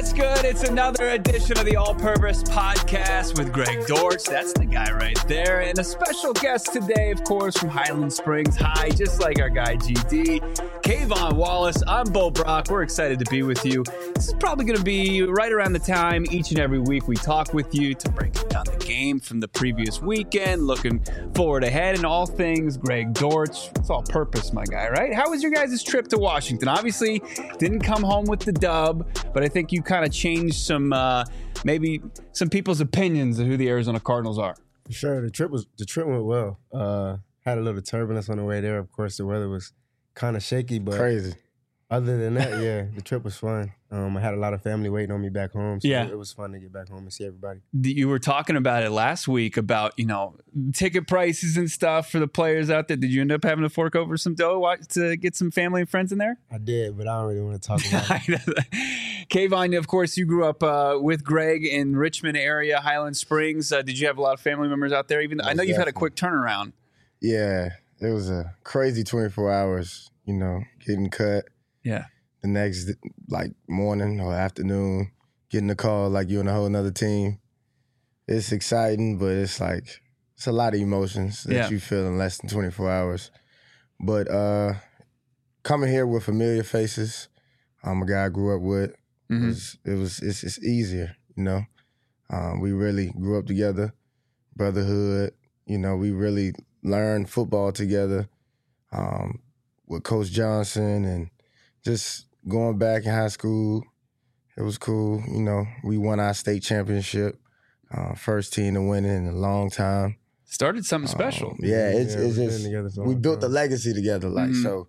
What's good? It's another edition of the All Purpose Podcast with Greg Dortch. That's the guy right there. And a special guest today, of course, from Highland Springs High, just like our guy GD, Kayvon Wallace. I'm Bo Brock. We're excited to be with you. This is probably going to be right around the time each and every week we talk with you to break down the game from the previous weekend, looking forward ahead, and all things Greg Dortch. It's all purpose, my guy, right? How was your guys' trip to Washington? Obviously, didn't come home with the dub, but I think you kind of changed some, maybe some people's opinions of who the Arizona Cardinals are. For sure, the trip went well. Had a little turbulence on the way there. Of course, the weather was kind of shaky, but crazy. Other than that, yeah, the trip was fun. I had a lot of family waiting on me back home, so it was fun to get back home and see everybody. You were talking about it last week about, ticket prices and stuff for the players out there. Did you end up having to fork over some dough to get some family and friends in there? I did, but I don't really want to talk about it. Kayvon, of course, you grew up with Greg in Richmond area, Highland Springs. Did you have a lot of family members out there? I know you've had a quick turnaround. Yeah, it was a crazy 24 hours, getting cut. Yeah. The next, morning or afternoon, getting a call like you're on a whole nother team. It's exciting, but it's a lot of emotions that you feel in less than 24 hours. But coming here with familiar faces, a guy I grew up with, it's easier, We really grew up together, brotherhood. We really learned football together with Coach Johnson and just going back in high school. It was cool. We won our state championship, first team to win it in a long time. Started something special. It's just, we built a legacy together. So,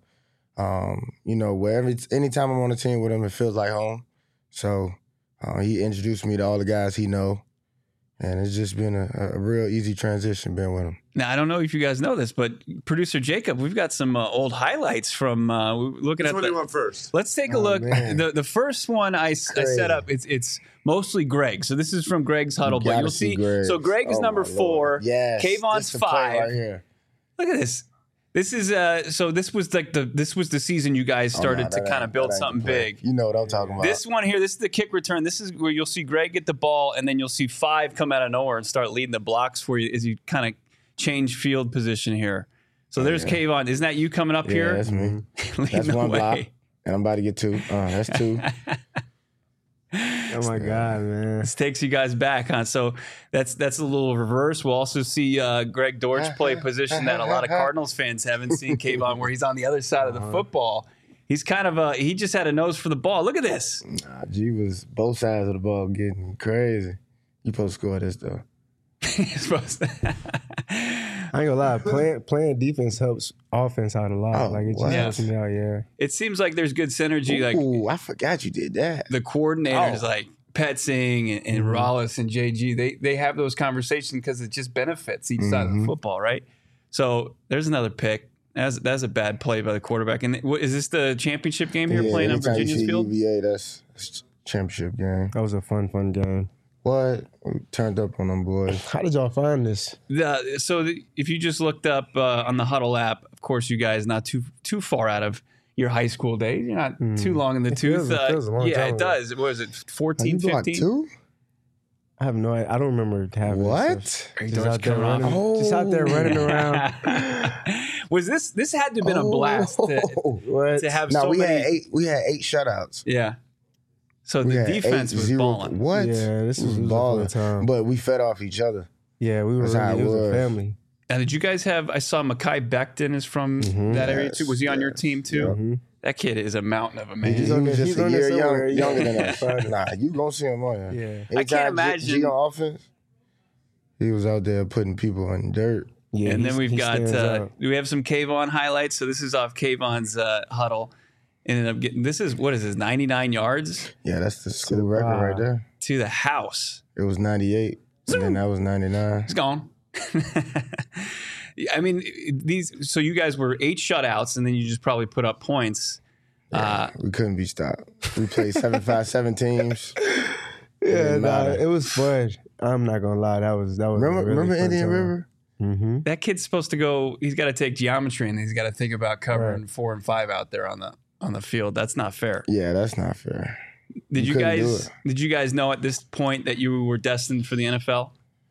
anytime I'm on a team with him, it feels like home. So he introduced me to all the guys he know. And it's just been a real easy transition being with him. Now, I don't know if you guys know this, but producer Jacob, we've got some old highlights from looking at. Which one do you want first? Let's take a look. The first one I set up, it's mostly Greg. So this is from Greg's huddle, but you'll see. Greg. So Greg is number 4. Yes, Kayvon's 5. Right here. Look at this. This is so this was the season you guys started to kind of build something big. You know what I'm talking about. This one here, this is the kick return. This is where you'll see Greg get the ball, and then you'll see 5 come out of nowhere and start leading the blocks for you as you kind of change field position here. So there's Kayvon. Isn't that you coming up here? Yeah, that's me. That's one block, and I'm about to get 2. That's 2. Oh my God, man! This takes you guys back, huh? So that's a little reverse. We'll also see Greg Dortch play a position that a lot of Cardinals fans haven't seen. Kayvon, where he's on the other side of the football. He's kind of he just had a nose for the ball. Look at this. G was both sides of the ball getting crazy. You supposed to score this though. He's supposed to. I ain't gonna lie, playing defense helps offense out a lot. It just helps me out, It seems like there's good synergy. Ooh, I forgot you did that. The coordinators like Petzing and Rollis and JG, they have those conversations because it just benefits each side of the football, right? So there's another pick. That's a bad play by the quarterback. And is this the championship game here playing on Virginia's field? UVA, that's championship game. That was a fun game. What? We turned up on them boys. How did y'all find this? If you just looked up on the Huddle app, of course, you guys not too far out of your high school days. You're not too long in the tooth. It feels a long time it does. What was it, 14, 15? Block 2? I have no idea. I don't remember having what? Just out there running around. Was this had to have been a blast to have we had 8 shutouts. Yeah. So the defense was balling. What? Yeah, this was balling time. But we fed off each other. Yeah, we were it was a family. Now, did you guys have? I saw Mekhi Becton is from that area too. Was he on your team too? Yeah. That kid is a mountain of a man. He was just a year younger than us. Nah, you gonna see him on here. Yeah. I can't imagine. G on offense, he was out there putting people in dirt. Yeah, and then we've got we have some Kayvon highlights. So this is off Kayvon's huddle. Ended up getting what is this? 99 yards. Yeah, that's the school record right there. To the house. It was 98, and then that was 99. It's gone. I mean, so you guys were 8 shutouts, and then you just probably put up points. Yeah, we couldn't be stopped. We played 7-5-7 teams. Yeah, it was fun. I'm not gonna lie, that was. Remember Indian River? Mm-hmm. That kid's supposed to go. He's got to take geometry, and he's got to think about covering 4 and 5 out there on the field. That's not fair. Yeah, that's not fair. Did you guys know at this point that you were destined for the NFL?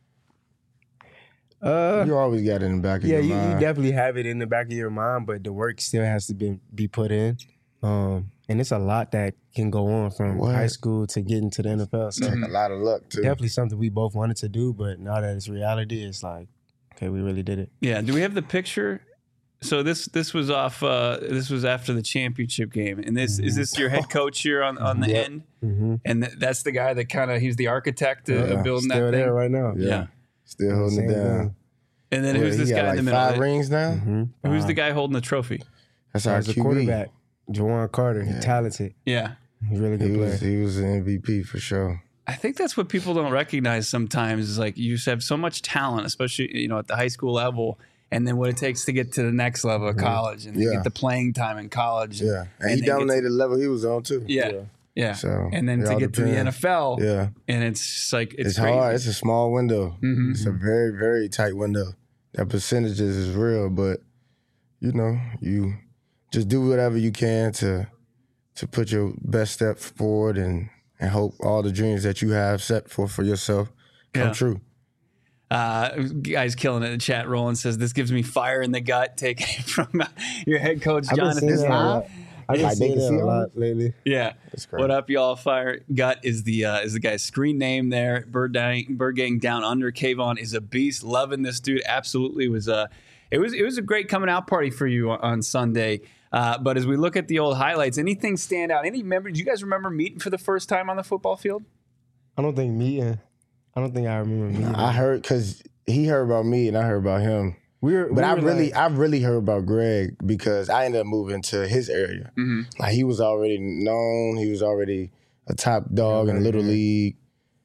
You always got it in the back of your mind. Yeah, you definitely have it in the back of your mind, but the work still has to be put in. And it's a lot that can go on from high school to getting to the NFL. So a lot of luck too. Definitely something we both wanted to do, but now that it's reality, it's like, okay, we really did it. Yeah. Do we have the picture? So this was off. This was after the championship game, and is this your head coach here on the end? Mm-hmm. And that's the guy that he's the architect of building that thing. Still there right now. Yeah. Still holding it down. And then who's this guy in the middle? 5 rings now. Mm-hmm. Who's the guy holding the trophy? That's our QB. quarterback, Juwan Carter. He's talented. Yeah. He's really good player. He was an MVP for sure. I think that's what people don't recognize sometimes is like you just have so much talent, especially, at the high school level, and then what it takes to get to the next level of college and get the playing time in college. Yeah. And he dominated the level he was on too. Yeah. So, and then to get to the NFL, and it's just like it's crazy. Hard. It's a small window. Mm-hmm. It's a very, very tight window. That percentages is real, but you just do whatever you can to put your best step forward and hope all the dreams that you have set for yourself come true. Guy's killing it in the chat. Roland says, this gives me fire in the gut. Taking it from your head coach, Jonathan. I've been seeing that a lot lately. Yeah. What up, y'all? Fire Gut is the guy's screen name there. Bird Gang Down Under. Kayvon is a beast. Loving this dude. Absolutely. It was a great coming out party for you on Sunday. But as we look at the old highlights, anything stand out? Do you guys remember meeting for the first time on the football field? I don't think I remember meeting. I heard because he heard about me and I heard about him. I really heard about Greg because I ended up moving to his area. Mm-hmm. Like he was already known. He was already a top dog in Little League.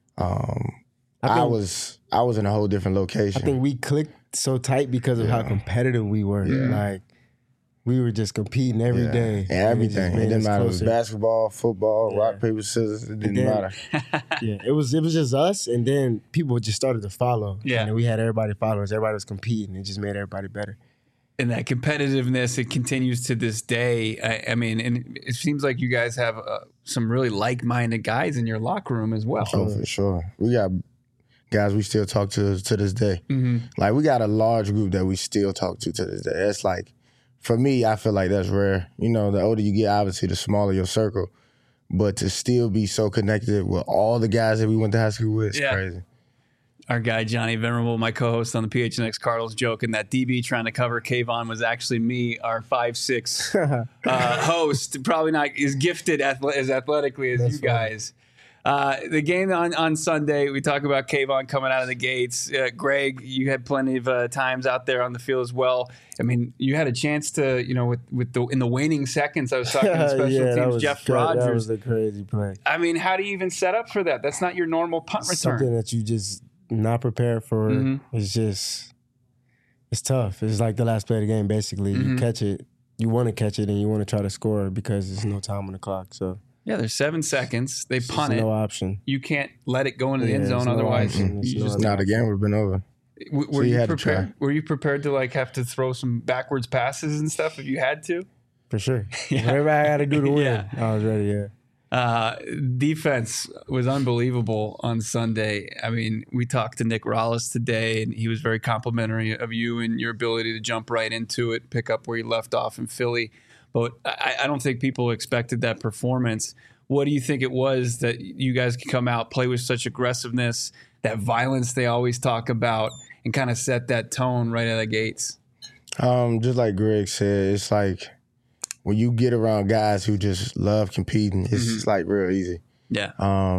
I was in a whole different location. I think we clicked so tight because of how competitive we were. Yeah. Like we were just competing every day. And everything. It didn't matter. It was basketball, football, rock, paper, scissors. It didn't matter. It was just us, and then people just started to follow. Yeah. And we had everybody follow us. Everybody was competing. It just made everybody better. And that competitiveness, it continues to this day. I mean, and it seems like you guys have some really like-minded guys in your locker room as well. Oh, for sure. We got guys we still talk to this day. Mm-hmm. Like, we got a large group that we still talk to this day. That's like, for me, I feel like that's rare. The older you get, obviously, the smaller your circle. But to still be so connected with all the guys that we went to high school with, it's crazy. Our guy, Johnny Venerable, my co-host on the PHNX Cardinals, joking that DB trying to cover Kayvon was actually me, our 5'6" host. Probably not as gifted as athletically as you guys. The game on Sunday, we talk about Kayvon coming out of the gates. Greg, you had plenty of times out there on the field as well. I mean, you had a chance to, in the waning seconds, I was talking to special teams, Jeff Rogers. That was a crazy play. I mean, how do you even set up for that? That's not your normal punt return. Something that you just not prepared for. Mm-hmm. It's tough. It's like the last play of the game, basically. Mm-hmm. You catch it, you want to catch it, and you want to try to score because there's no time on the clock, so. Yeah, there's 7 seconds. They punt it. No option. You can't let it go into the end zone. Otherwise, the game would have been over. Were you prepared? Were you prepared to have to throw some backwards passes and stuff if you had to? For sure. Whatever I had to do to win, I was ready. Yeah. Defense was unbelievable on Sunday. I mean, we talked to Nick Rallis today, and he was very complimentary of you and your ability to jump right into it, pick up where you left off in Philly. But I don't think people expected that performance. What do you think it was that you guys could come out, play with such aggressiveness, that violence they always talk about, and kind of set that tone right out of the gates? Just like Greg said, it's like when you get around guys who just love competing, it's just like real easy. Yeah.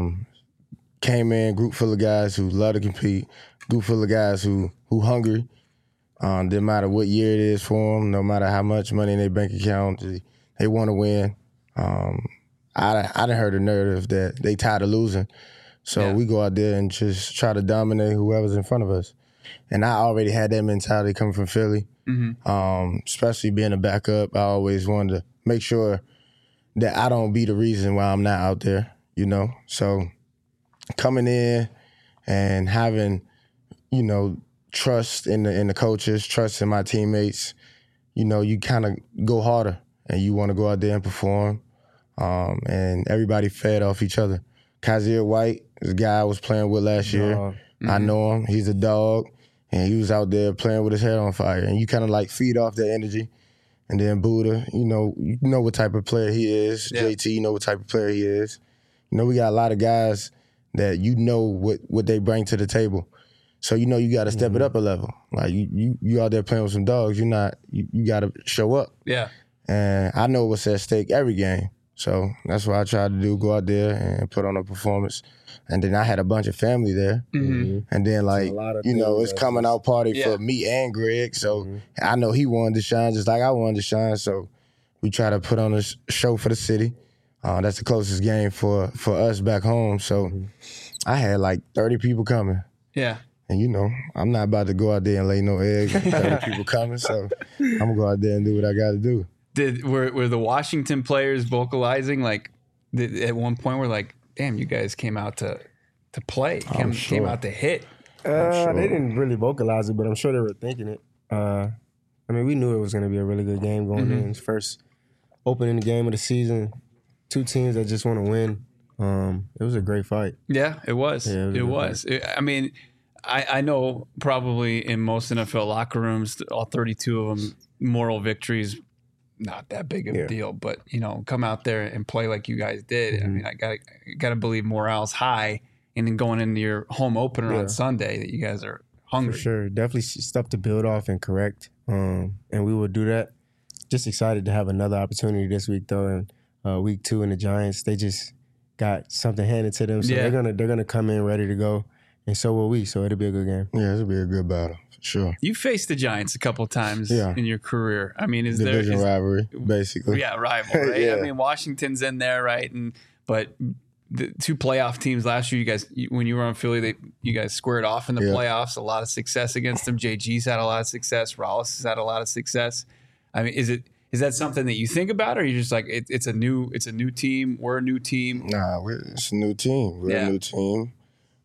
Came in, group full of guys who love to compete, group full of guys who hungry. Didn't matter what year it is for them, no matter how much money in their bank account, they want to win. I done heard the narrative that they tired of losing. So we go out there and just try to dominate whoever's in front of us. And I already had that mentality coming from Philly, especially being a backup. I always wanted to make sure that I don't be the reason why I'm not out there, So coming in and having, trust in the coaches, trust in my teammates, you kind of go harder and you want to go out there and perform. and everybody fed off each other. Kaiser White, this guy I was playing with last year. Mm-hmm. I know him. He's a dog, and he was out there playing with his head on fire. And you kind of like feed off that energy. And then Buddha, you know what type of player he is. Yeah. JT, you know what type of player he is. You know, we got a lot of guys that you know what they bring to the table. So you know you got to step it up a level. Like you out there playing with some dogs. You got to show up. Yeah. And I know what's at stake every game. So that's what I tried to do, go out there and put on a performance. And then I had a bunch of family there. Mm-hmm. And then, like, you know, it's coming out party for me and Greg. So I know he wanted to shine just like I wanted to shine. So we try to put on a show for the city. That's the closest game for us back home. So I had like 30 people coming. Yeah. And, you know, I'm not about to go out there and lay no eggs. 30 people coming. So I'm going to go out there and do what I got to do. Were the Washington players vocalizing, like, at one point we're like, damn, you guys came out to play, came out to hit? They didn't really vocalize it, but I'm sure they were thinking it. I mean, we knew it was going to be a really good game going in. It's first opening game of the season. Two teams that just want to win. It was a great fight. Yeah, it was. Yeah, it was. I mean, I know probably in most NFL locker rooms, all 32 of them, moral victories, not that big of a deal. But, you know, come out there and play like you guys did. I mean, I gotta believe morale's high. And then going into your home opener on Sunday, that you guys are hungry. For sure. Definitely stuff to build off and correct. And we will do that. Just excited to have another opportunity this week, though. And week 2 in the Giants, they just got something handed to them. So they're gonna come in ready to go. And so will we. So it'll be a good game. Yeah, it'll be a good battle, for sure. You faced the Giants a couple times in your career. I mean, Division rivalry, basically. Yeah, rival, right? I mean, Washington's in there, right? But the 2 playoff teams last year, you guys, when you were on Philly, you guys squared off in the playoffs. A lot of success against them. JG's had a lot of success. Rollis has had a lot of success. I mean, is that something that you think about, or are you just like it's a new team? We're a new team. Nah, it's a new team. We're a new team.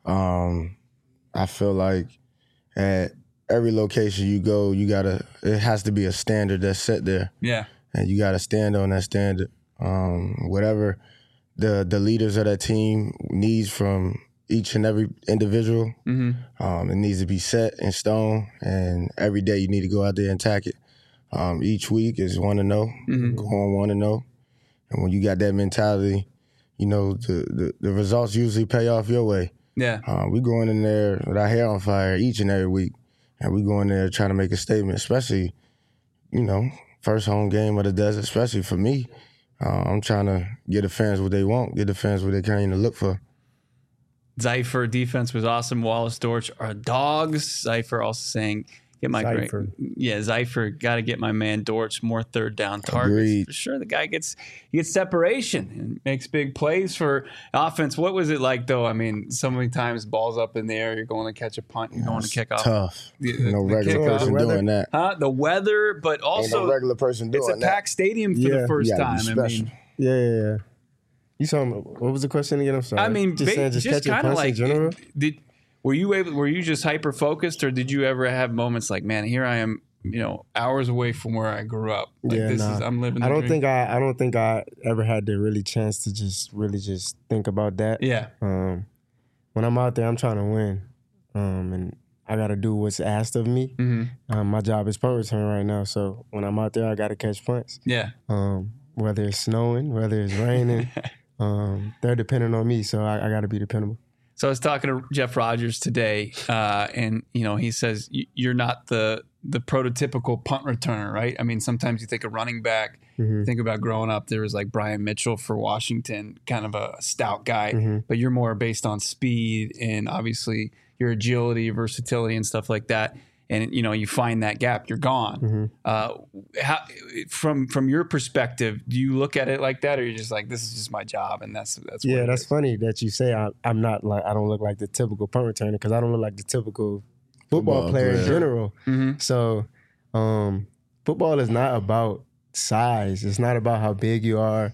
I feel like at every location you go, it has to be a standard that's set there. Yeah. And you gotta stand on that standard. Whatever the leaders of that team needs from each and every individual, it needs to be set in stone, and every day you need to go out there and attack it. Each week is 1-0, go on 1-0. And when you got that mentality, you know, the results usually pay off your way. Yeah. We going in there with our hair on fire each and every week. And we go in there trying to make a statement, especially, you know, first home game of the desert, especially for me. I'm trying to get the fans what they want, get the fans what they kind of look for. Zypher defense was awesome. Wallace Dortch are dogs. Zypher also saying, get my Zypher, got to get my man Dortch more third down targets. Agreed. For sure, the guy gets separation and makes big plays for offense. What was it like, though? I mean, so many times balls up in the air, you're going to catch a punt, you're going to kick off. Tough. No regular person doing that. The weather, but also no regular person doing it's a packed stadium for the first time. I mean, yeah. You saw him. What was the question again? I'm sorry. I mean, just catching punts like, in general. Were you just hyper focused, or did you ever have moments like, man, here I am, you know, hours away from where I grew up? Like, I'm living the dream. I don't think I ever had the really chance to just think about that. Yeah. When I'm out there, I'm trying to win, and I got to do what's asked of me. My job is punt return right now, so when I'm out there, I got to catch punts. Yeah. Whether it's snowing, whether it's raining, they're dependent on me, so I got to be dependable. So I was talking to Jeff Rogers today, and you know, he says you're not the prototypical punt returner, right? I mean, sometimes you think of running back. Think about growing up. There was like Brian Mitchell for Washington, kind of a stout guy, but you're more based on speed and obviously your agility, versatility, and stuff like that. And you know, you find that gap, you're gone. How, from your perspective, do you look at it like that, or you're just like, this is just my job, and that's yeah. That's funny that you say I'm not like, I don't look like the typical punt returner, because I don't look like the typical football player in general. So football is not about size. It's not about how big you are.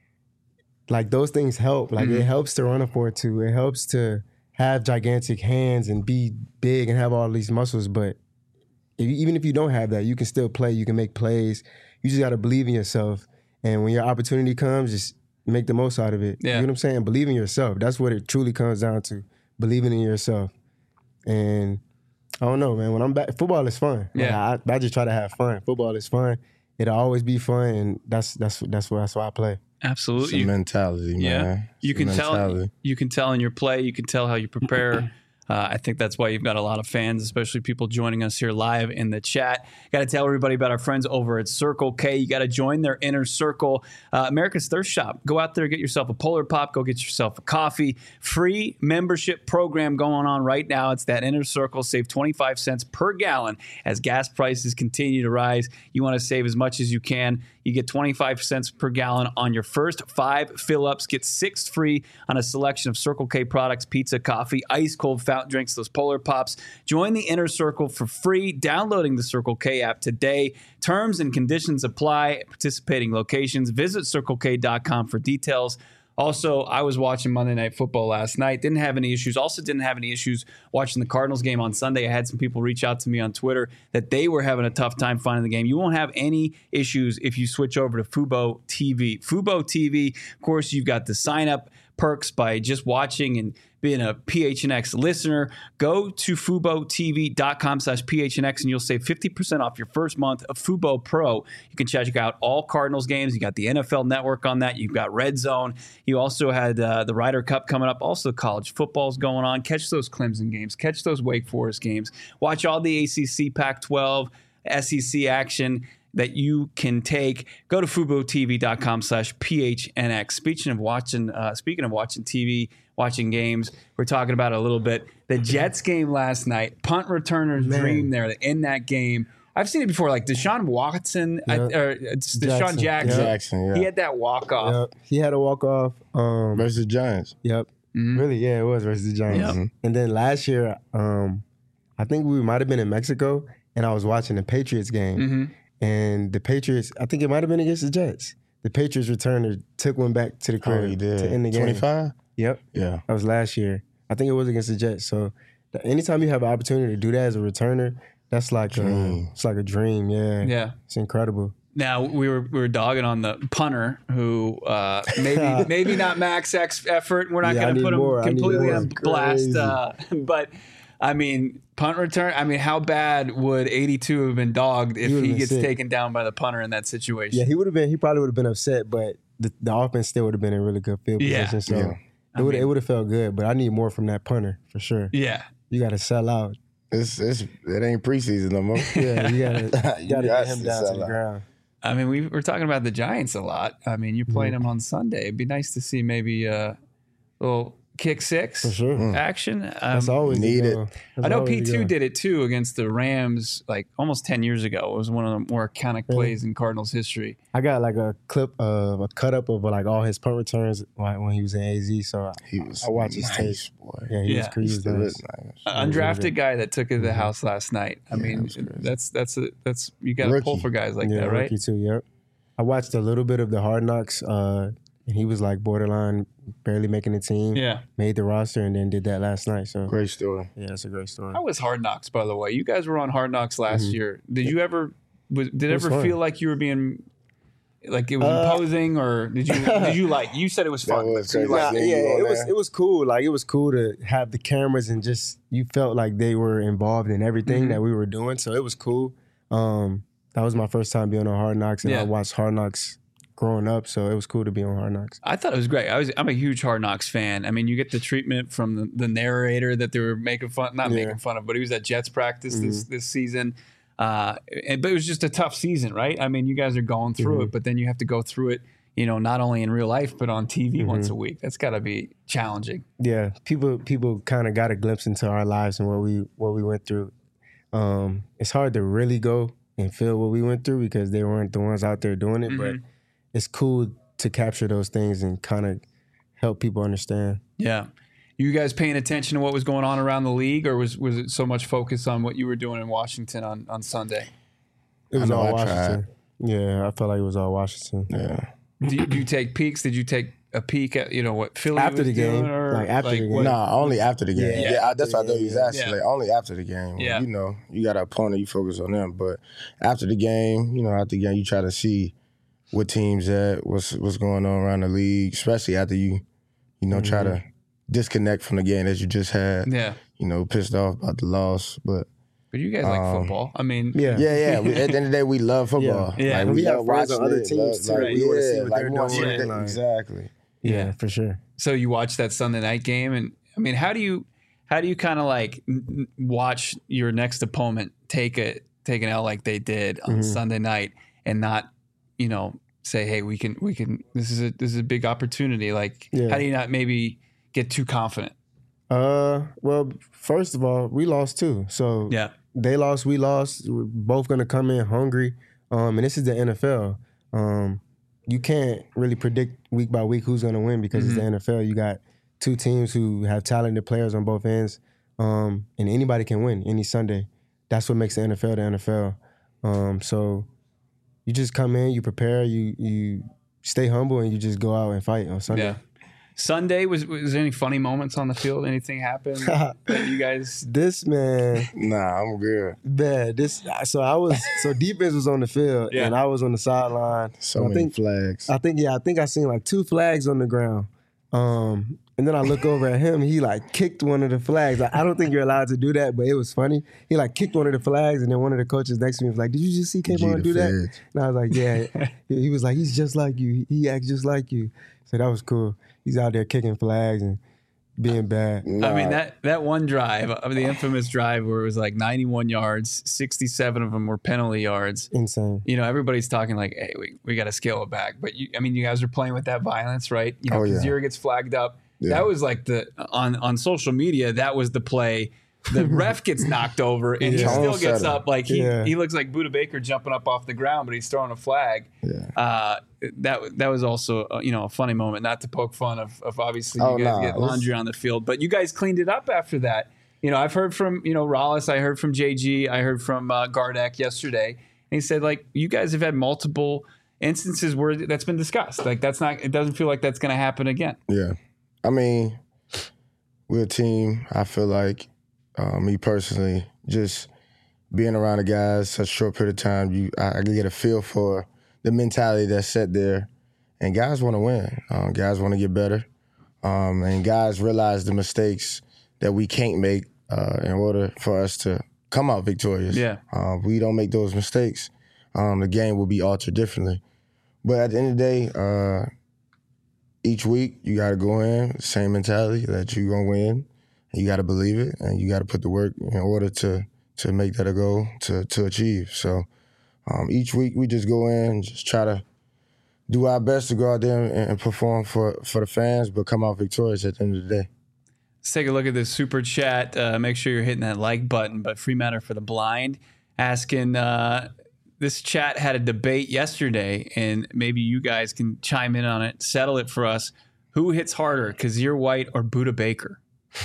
Like, those things help. Like it helps to run a 4.2. It helps to have gigantic hands and be big and have all these muscles, but even if you don't have that, you can still play. You can make plays. You just got to believe in yourself. And when your opportunity comes, just make the most out of it. Yeah. You know what I'm saying? Believe in yourself. That's what it truly comes down to. Believing in yourself. And I don't know, man. When I'm back, football is fun. Yeah. Like, I just try to have fun. Football is fun. It'll always be fun, and that's why I play. Absolutely. It's a mentality, man. Yeah. You can mentality. tell in your play. You can tell how you prepare. I think that's why you've got a lot of fans, especially people joining us here live in the chat. Got to tell everybody about our friends over at Circle K. You got to join their inner circle. America's Thirst Shop. Go out there, get yourself a Polar Pop. Go get yourself a coffee. Free membership program going on right now. It's that inner circle. Save 25 cents per gallon as gas prices continue to rise. You want to save as much as you can. You get 25 cents per gallon on your first 5 fill-ups. Get 6 free on a selection of Circle K products, pizza, coffee, ice cold fountain drinks, those Polar Pops. Join the Inner Circle for free, downloading the Circle K app today. Terms and conditions apply at participating locations. Visit CircleK.com for details. Also, I was watching Monday Night Football last night. Didn't have any issues. Also didn't have any issues watching the Cardinals game on Sunday. I had some people reach out to me on Twitter that they were having a tough time finding the game. You won't have any issues if you switch over to Fubo TV. Fubo TV, of course, you've got the sign-up perks by just watching and being a PHNX listener. Go to FuboTV.com/PHNX and you'll save 50% off your first month of Fubo Pro. You can check out all Cardinals games. You got the NFL Network on that. You've got Red Zone. You also had the Ryder Cup coming up. Also, college football's going on. Catch those Clemson games. Catch those Wake Forest games. Watch all the ACC, Pac-12, SEC action that you can take. Go to FuboTV.com/PHNX. Speaking of watching TV, watching games, we're talking about it a little bit. The Jets game last night, punt returner's dream there in that game. I've seen it before, like Deshaun Watson, or Deshaun Jackson. Yeah. He had that walk-off. Yep. He had a walk-off. Versus the Giants. Yep. Mm-hmm. Really, yeah, it was versus the Giants. Yep. And then last year, I think we might have been in Mexico, and I was watching the Patriots game. Mm-hmm. And the Patriots, I think it might have been against the Jets. The Patriots returner took one back to the crib he did. to end the game. 25? Yep. Yeah. That was last year. I think it was against the Jets. So anytime you have an opportunity to do that as a returner, that's like it's like a dream. Yeah. Yeah. It's incredible. Now we were dogging on the punter who maybe not max X effort. We're not going to put him completely on blast, but I mean punt return. I mean, how bad would 82 have been dogged if he gets taken down by the punter in that situation? Yeah, he probably would have been upset, but the offense still would have been in really good field position. So it would have felt good. But I need more from that punter for sure. Yeah, you got to sell out. It ain't preseason no more. Yeah, you gotta get him down to the ground. I mean, we're talking about the Giants a lot. I mean, you're playing them on Sunday. It'd be nice to see maybe a little kick six for sure. action. That's always needed. I know P2 did it too against the Rams like almost 10 years ago. It was one of the more iconic plays in Cardinals history. I got like a clip of a cut up of like all his punt returns when he was in AZ. So I watched his tape. Boy. Yeah, he was crazy. Undrafted guy that took it to the house last night. I mean, that's you got to pull for guys like that, right? Rookie too. Yep. I watched a little bit of the Hard Knocks. And he was like borderline, barely making the team. Yeah. Made the roster and then did that last night. So great story. Yeah, it's a great story. How was Hard Knocks, by the way? You guys were on Hard Knocks last year. Did you ever feel like you were being like it was imposing, or did you like? You said it was fun. It was cool. Like it was cool to have the cameras and just you felt like they were involved in everything that we were doing. So it was cool. That was my first time being on Hard Knocks, and I watched Hard Knocks growing up, so it was cool to be on Hard Knocks. I thought it was great. I'm a huge Hard Knocks fan. I mean, you get the treatment from the narrator that they were making fun of, but he was at Jets practice this season. But it was just a tough season, right? I mean, you guys are going through it, but then you have to go through it, not only in real life, but on TV once a week. That's got to be challenging. Yeah, people kind of got a glimpse into our lives and what we went through. It's hard to really go and feel what we went through because they weren't the ones out there doing it, but it's cool to capture those things and kind of help people understand. Yeah. You guys paying attention to what was going on around the league, or was it so much focus on what you were doing in Washington on Sunday? It was all Washington. Yeah, I felt like it was all Washington. Yeah. Do you take peeks? Did you take a peek at what Philly after was the game? doing, or after the game? No, only after the game. Yeah, that's what I know he was asking. Yeah. Like, only after the game. Yeah. You got an opponent, you focus on them. But after the game, you try to see what teams at, what's going on around the league, especially after you try to disconnect from the game that you just had. Yeah. Pissed off about the loss, but you guys like football. I mean, yeah. At the end of the day, we love football. Yeah. We have friends on other teams too. We want to see what they're doing. Exactly. Yeah, for sure. So you watched that Sunday night game, and I mean, how do you kind of like watch your next opponent take an L like they did on Sunday night and not, say, hey, we can. This is a big opportunity. Like, how do you not maybe get too confident? Well, first of all, we lost too. So they lost, we lost. We're both gonna come in hungry. And this is the NFL. You can't really predict week by week who's gonna win because it's the NFL. You got two teams who have talented players on both ends, and anybody can win any Sunday. That's what makes the NFL the NFL. So you just come in, you prepare, you stay humble, and you just go out and fight on Sunday. Yeah. Sunday, was there any funny moments on the field? Anything happened that you guys? This man. Nah, I'm good. Man, so defense was on the field and I was on the sideline. So many flags. I think I seen like 2 flags on the ground. And then I look over at him, he like kicked one of the flags. I don't think you're allowed to do that, but it was funny. He like kicked one of the flags, and then one of the coaches next to me was like, "Did you just see Kayvon do that?" And I was like, "Yeah." He was like, "He's just like you. He acts just like you." So that was cool. He's out there kicking flags and being bad. I mean, that one drive, the infamous drive where it was like 91 yards, 67 of them were penalty yards. Insane. Everybody's talking like, hey, we got to scale it back. But, you guys are playing with that violence, right? Kazir gets flagged up. Yeah. That was like on social media, that was the play. The ref gets knocked over and he still gets up. Like he looks like Budda Baker jumping up off the ground, but he's throwing a flag. Yeah. That was also a funny moment. Not to poke fun of obviously you guys get laundry on the field, but you guys cleaned it up after that. I've heard from Rollis, I heard from JG, I heard from Gardeck yesterday, and he said like you guys have had multiple instances where that's been discussed. Like it doesn't feel like that's going to happen again. Yeah. I mean, we're a team. I feel like, me personally, just being around the guys such a short period of time, I get a feel for the mentality that's set there. And guys want to win. Guys want to get better. And guys realize the mistakes that we can't make in order for us to come out victorious. Yeah. If we don't make those mistakes, the game will be altered differently. But at the end of the day, each week, you got to go in, same mentality that you're going to win. And you got to believe it, and you got to put the work in order to make that a goal to achieve. So each week, we just go in and just try to do our best to go out there and perform for the fans, but come out victorious at the end of the day. Let's take a look at this super chat. Make sure you're hitting that like button. But Free Matter for the Blind asking, this chat had a debate yesterday, and maybe you guys can chime in on it, settle it for us. Who hits harder, Kazir White or Budda Baker?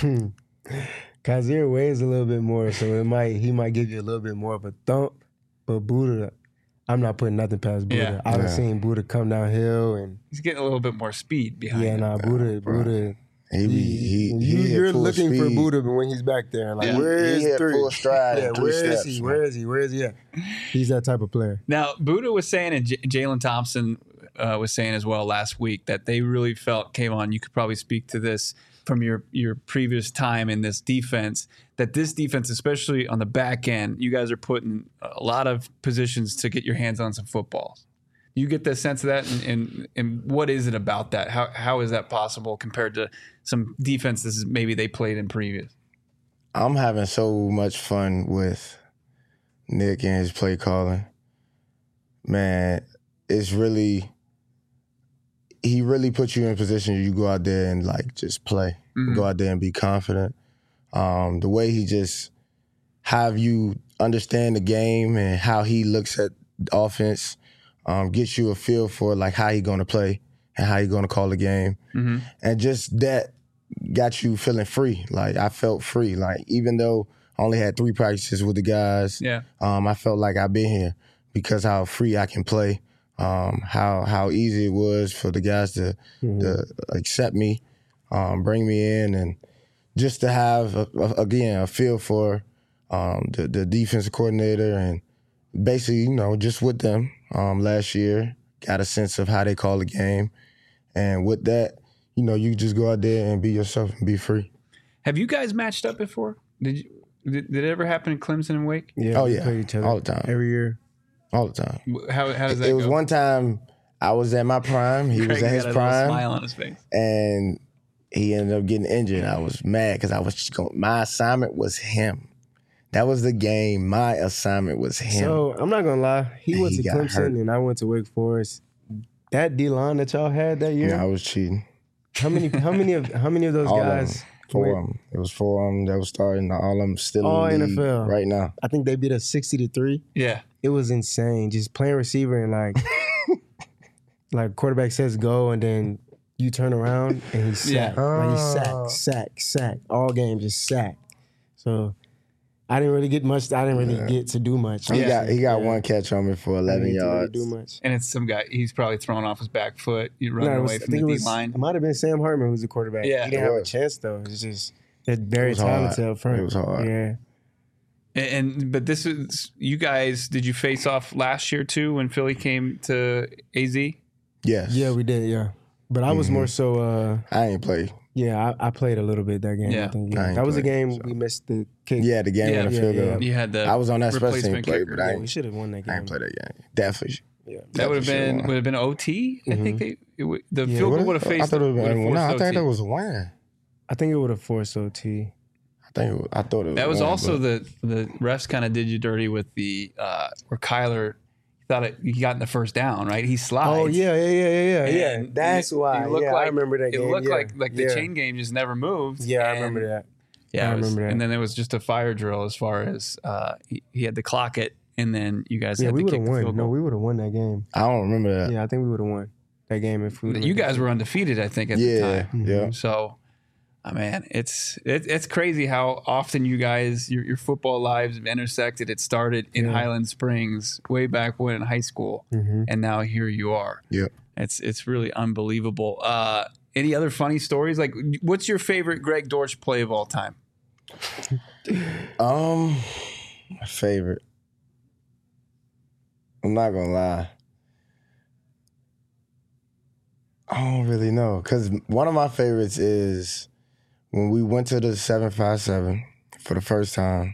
Kazir weighs a little bit more, so he might give you a little bit more of a thump. But Budda, I'm not putting nothing past Budda. Yeah. I've seen Budda come downhill, and he's getting a little bit more speed behind him. Budda. You're looking speed. for Budda when he's back there. Like, where is he full stride? Yeah, where is he at? He's that type of player. Now, Budda was saying, and Jalen Thompson was saying as well last week, that they really felt, Kayvon, you could probably speak to this from your previous time in this defense, that this defense, especially on the back end, you guys are putting a lot of positions to get your hands on some footballs. You get the sense of that, and what is it about that? How is that possible compared to some defenses maybe they played in previous? I'm having so much fun with Nick and his play calling. Man, it's really, he really puts you in a position you go out there and like just play. Go out there and be confident. The way he just have you understand the game and how he looks at offense gets you a feel for like how he going to play and how he going to call the game. And just that got you feeling free. Like I felt free. Like even though I only had 3 practices with the guys, I felt like I've been here because how free I can play. How easy it was for the guys to accept me, bring me in, and just to have a feel for the defensive coordinator, and basically just with them last year got a sense of how they call the game. And with that, you know, you just go out there and be yourself and be free. Have you guys matched up before? Did it ever happen in Clemson and Wake? Yeah. Oh, we yeah. played each other All the time. every year. All the time. How does that go? It was one time I was at my prime. He was at his got a little prime. smile on his face. And he ended up getting injured. I was mad because my assignment was him. That was the game. My assignment was him. So I'm not gonna lie. He went to got Clemson hurt. and I went to Wake Forest. That D line that y'all had that year. Yeah, I was cheating. How many of those All guys? of them. 4 of them. It was 4 of them that was starting. All of them still All in the league NFL. right now. I think they beat us 60-3. Yeah. It was insane. Just playing receiver and like quarterback says go and then you turn around and he's sacked. Like he's sack. All game just sack. So I didn't really get much. I didn't really get to do much. He got one catch on me for 11 yards. Really do much. And it's some guy, he's probably throwing off his back foot. You're running away from the D-line. It might have been Sam Hartman who's the quarterback. Yeah. He didn't have a chance though. It's just they're very talented up front. It was hard. Yeah. But this is, you guys, did you face off last year too when Philly came to AZ? Yes. Yeah, we did, yeah. But I was more so I ain't play. yeah, I played a little bit that game. Yeah. I think, I ain't that was a played, game so. we missed the kick. Yeah, the game in the field goal. You had the I was on that special team replacement play, kicker. but I We ain't, should have won that game. I ain't play that game. Definitely. Yeah. That would have been OT. I think the field goal would have faced. I thought it would have been. No, I OT. think that was a win. I think it would have forced OT. I thought it was. That was one, also but the refs kind of did you dirty with the where Kyler he got in the first down, right? He slides. Oh yeah. And That's why. it looked Yeah, I remember that game. It looked yeah. like the Yeah. chain game just never moved. Yeah, I And- remember that. Yeah, I it was- remember that. And then there was just a fire drill as far as he had to clock it, and then you guys Yeah, had we to would kick have the won. field No, goal. we would have won that game. I don't remember that. Yeah, I think we would have won that game if we. You guys were undefeated, I think, at the time. Yeah. So, man, it's crazy how often you guys your football lives have intersected. It started in Highland Springs way back when in high school, and now here you are. Yeah. It's really unbelievable. Any other funny stories? Like, what's your favorite Greg Dortch play of all time? My favorite. I'm not gonna lie. I don't really know, cause one of my favorites is when we went to the 757 for the first time,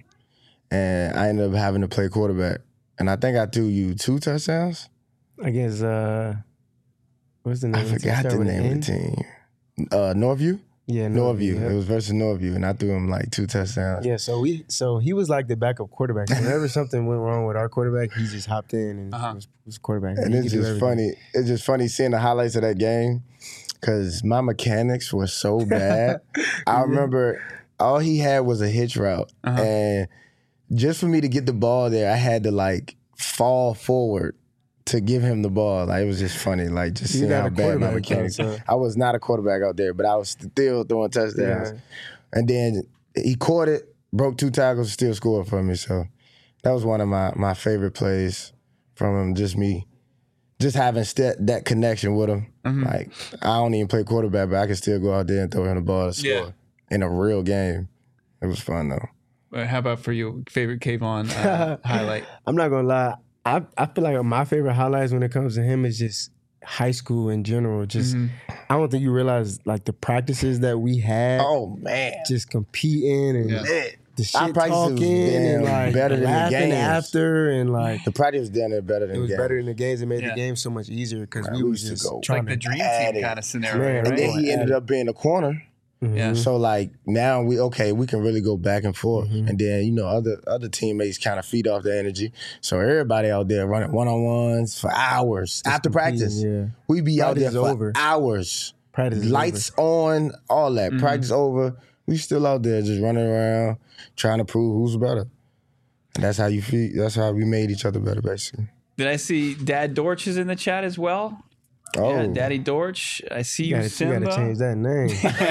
and I ended up having to play quarterback, and I think I threw you 2 touchdowns. I guess. What's the name? I forgot the name of the team. Northview. Yeah, Northview. yeah. It was versus Northview, and I threw him like 2 touchdowns. Yeah, so he was like the backup quarterback. So whenever something went wrong with our quarterback, he just hopped in and was quarterback. And He it's could do just everything. funny. It's just funny seeing the highlights of that game because my mechanics were so bad. I remember all he had was a hitch route. And just for me to get the ball there, I had to like fall forward to give him the ball. Like, it was just funny. Like, just You're seeing not how a bad my quarterback, though, mechanics. so- I was not a quarterback out there, but I was still throwing touchdowns. Yeah. And then he caught it, broke 2 tackles, still scored for me. So that was one of my favorite plays from him. Just me, just having that connection with him. Like, I don't even play quarterback, but I can still go out there and throw him the ball to score in a real game. It was fun though. How about for you, favorite Kayvon highlight? I'm not gonna lie. I feel like my favorite highlights when it comes to him is just high school in general. Just I don't think you realize like the practices that we had. Oh man, just competing and the shit Our practices was talking and damn like better than the laughing games. after and like the practice was down there better than it was the game. better than the games. It made the game so much easier because Man, we we was used to just go trying Like the to. dream Add team it. kind of scenario, Man, right? And then he ended up being a corner. Yeah. So like now we can really go back and forth, and then other teammates kind of feed off the energy. So everybody out there running 1-on-1s for hours after practice. Yeah. We be out there Practice for is over. hours. Practice is Lights on, all that. Practice over. We still out there just running around trying to prove who's better. And that's how you feel. That's how we made each other better, basically. Did I see Dad Dortch is in the chat as well? Oh, Yeah, Daddy Dortch. I see you, You Simba. gotta change that name.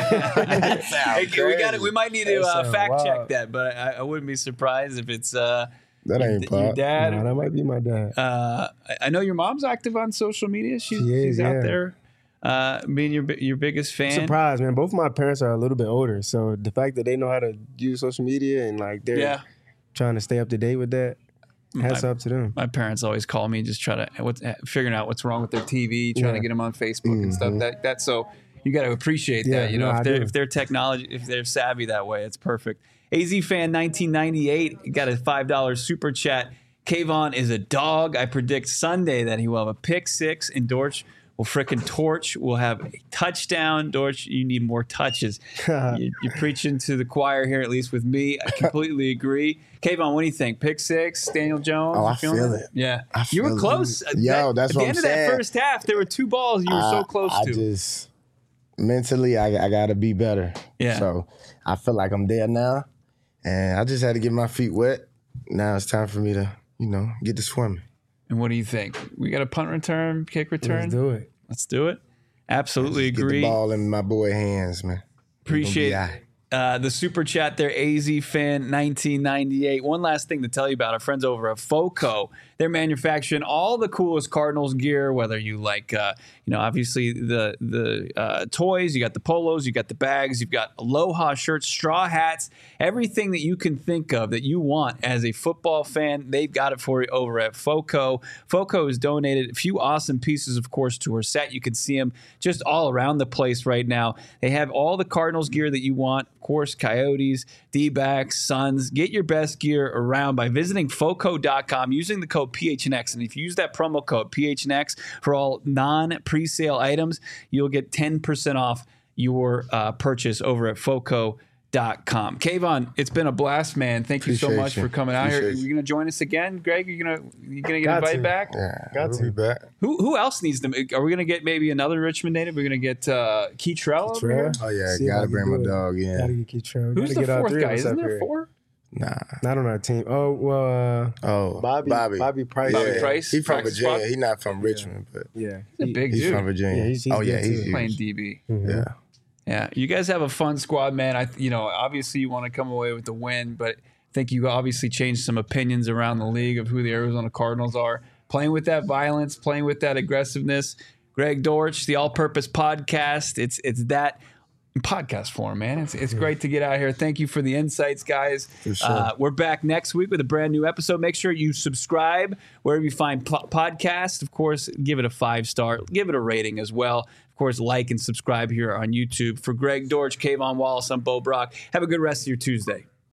Hey, we might need to That sound fact check wild. that, but I wouldn't be surprised if it's that ain't your pop. dad. Nah, that might be my dad. I know your mom's active on social media. She's is, out yeah. there being your biggest fan. Surprised, man. Both my parents are a little bit older, so the fact that they know how to use social media and like they're trying to stay up to date with that, Hats up to them. My parents always call me, just try to figuring out what's wrong with their TV, trying to get them on Facebook and stuff. That so you got to appreciate that. If they're technology, if they're savvy that way, it's perfect. AZ Fan 1998 got a $5 super chat. Kayvon is a dog. I predict Sunday that he will have a pick six, and Dortch will frickin' torch. We'll have a touchdown. Dortch, you need more touches. You're preaching to the choir here, at least with me. I completely agree. Kayvon, what do you think? Pick six, Daniel Jones? Oh, I feel it. Yeah. You were close. Yo, that's what I'm saying. At the end of that first half, there were 2 balls you were so close to. Mentally, I got to be better. Yeah. So I feel like I'm there now, and I just had to get my feet wet. Now it's time for me to, get to swimming. And what do you think? We got a punt return, kick return? Let's do it. Absolutely agree. Get the ball in my boy hands, man. Appreciate the super chat there, AZ Fan 1998. One last thing to tell you about our friends over at FOCO. They're manufacturing all the coolest Cardinals gear, whether you like, obviously the toys, you got the polos, you got the bags, you've got Aloha shirts, straw hats, everything that you can think of that you want as a football fan, they've got it for you over at FOCO. FOCO has donated a few awesome pieces, of course, to her set. You can see them just all around the place right now. They have all the Cardinals gear that you want. Of course, Coyotes, D-backs, Suns. Get your best gear around by visiting FOCO.com using the code PHNX. And if you use that promo code PHNX for all non-presale items, you'll get 10% off your purchase over at FOCO.com. Kayvon, it's been a blast, man. Thank you so much for coming out here. Are you going to join us again, Greg? You going to get invited back? Yeah, got to be back. Who else needs them? Are we going to get maybe another Richmond native? We're going to get Keytrell over here? Oh, yeah. Got to bring my dog in. Got to get Keytrell. Who's the fourth guy? Isn't there 4? Nah. Not on our team. Oh, well. Bobby Price. Bobby Price. He's from Virginia. He's not from Richmond, but yeah. He's a big dude. He's from Virginia. He's playing DB. Mm-hmm. Yeah. Yeah, you guys have a fun squad, man. Obviously you want to come away with the win, but I think you obviously changed some opinions around the league of who the Arizona Cardinals are. Playing with that violence, playing with that aggressiveness. Greg Dortch, the All-Purpose Podcast. It's that podcast form, man. It's great to get out here. Thank you for the insights, guys. For sure. We're back next week with a brand new episode. Make sure you subscribe wherever you find podcasts. Of course, give it a 5-star. Give it a rating as well. Of course, like and subscribe here on YouTube. For Greg Dortch, Kayvon Wallace, I'm Bo Brock. Have a good rest of your Tuesday.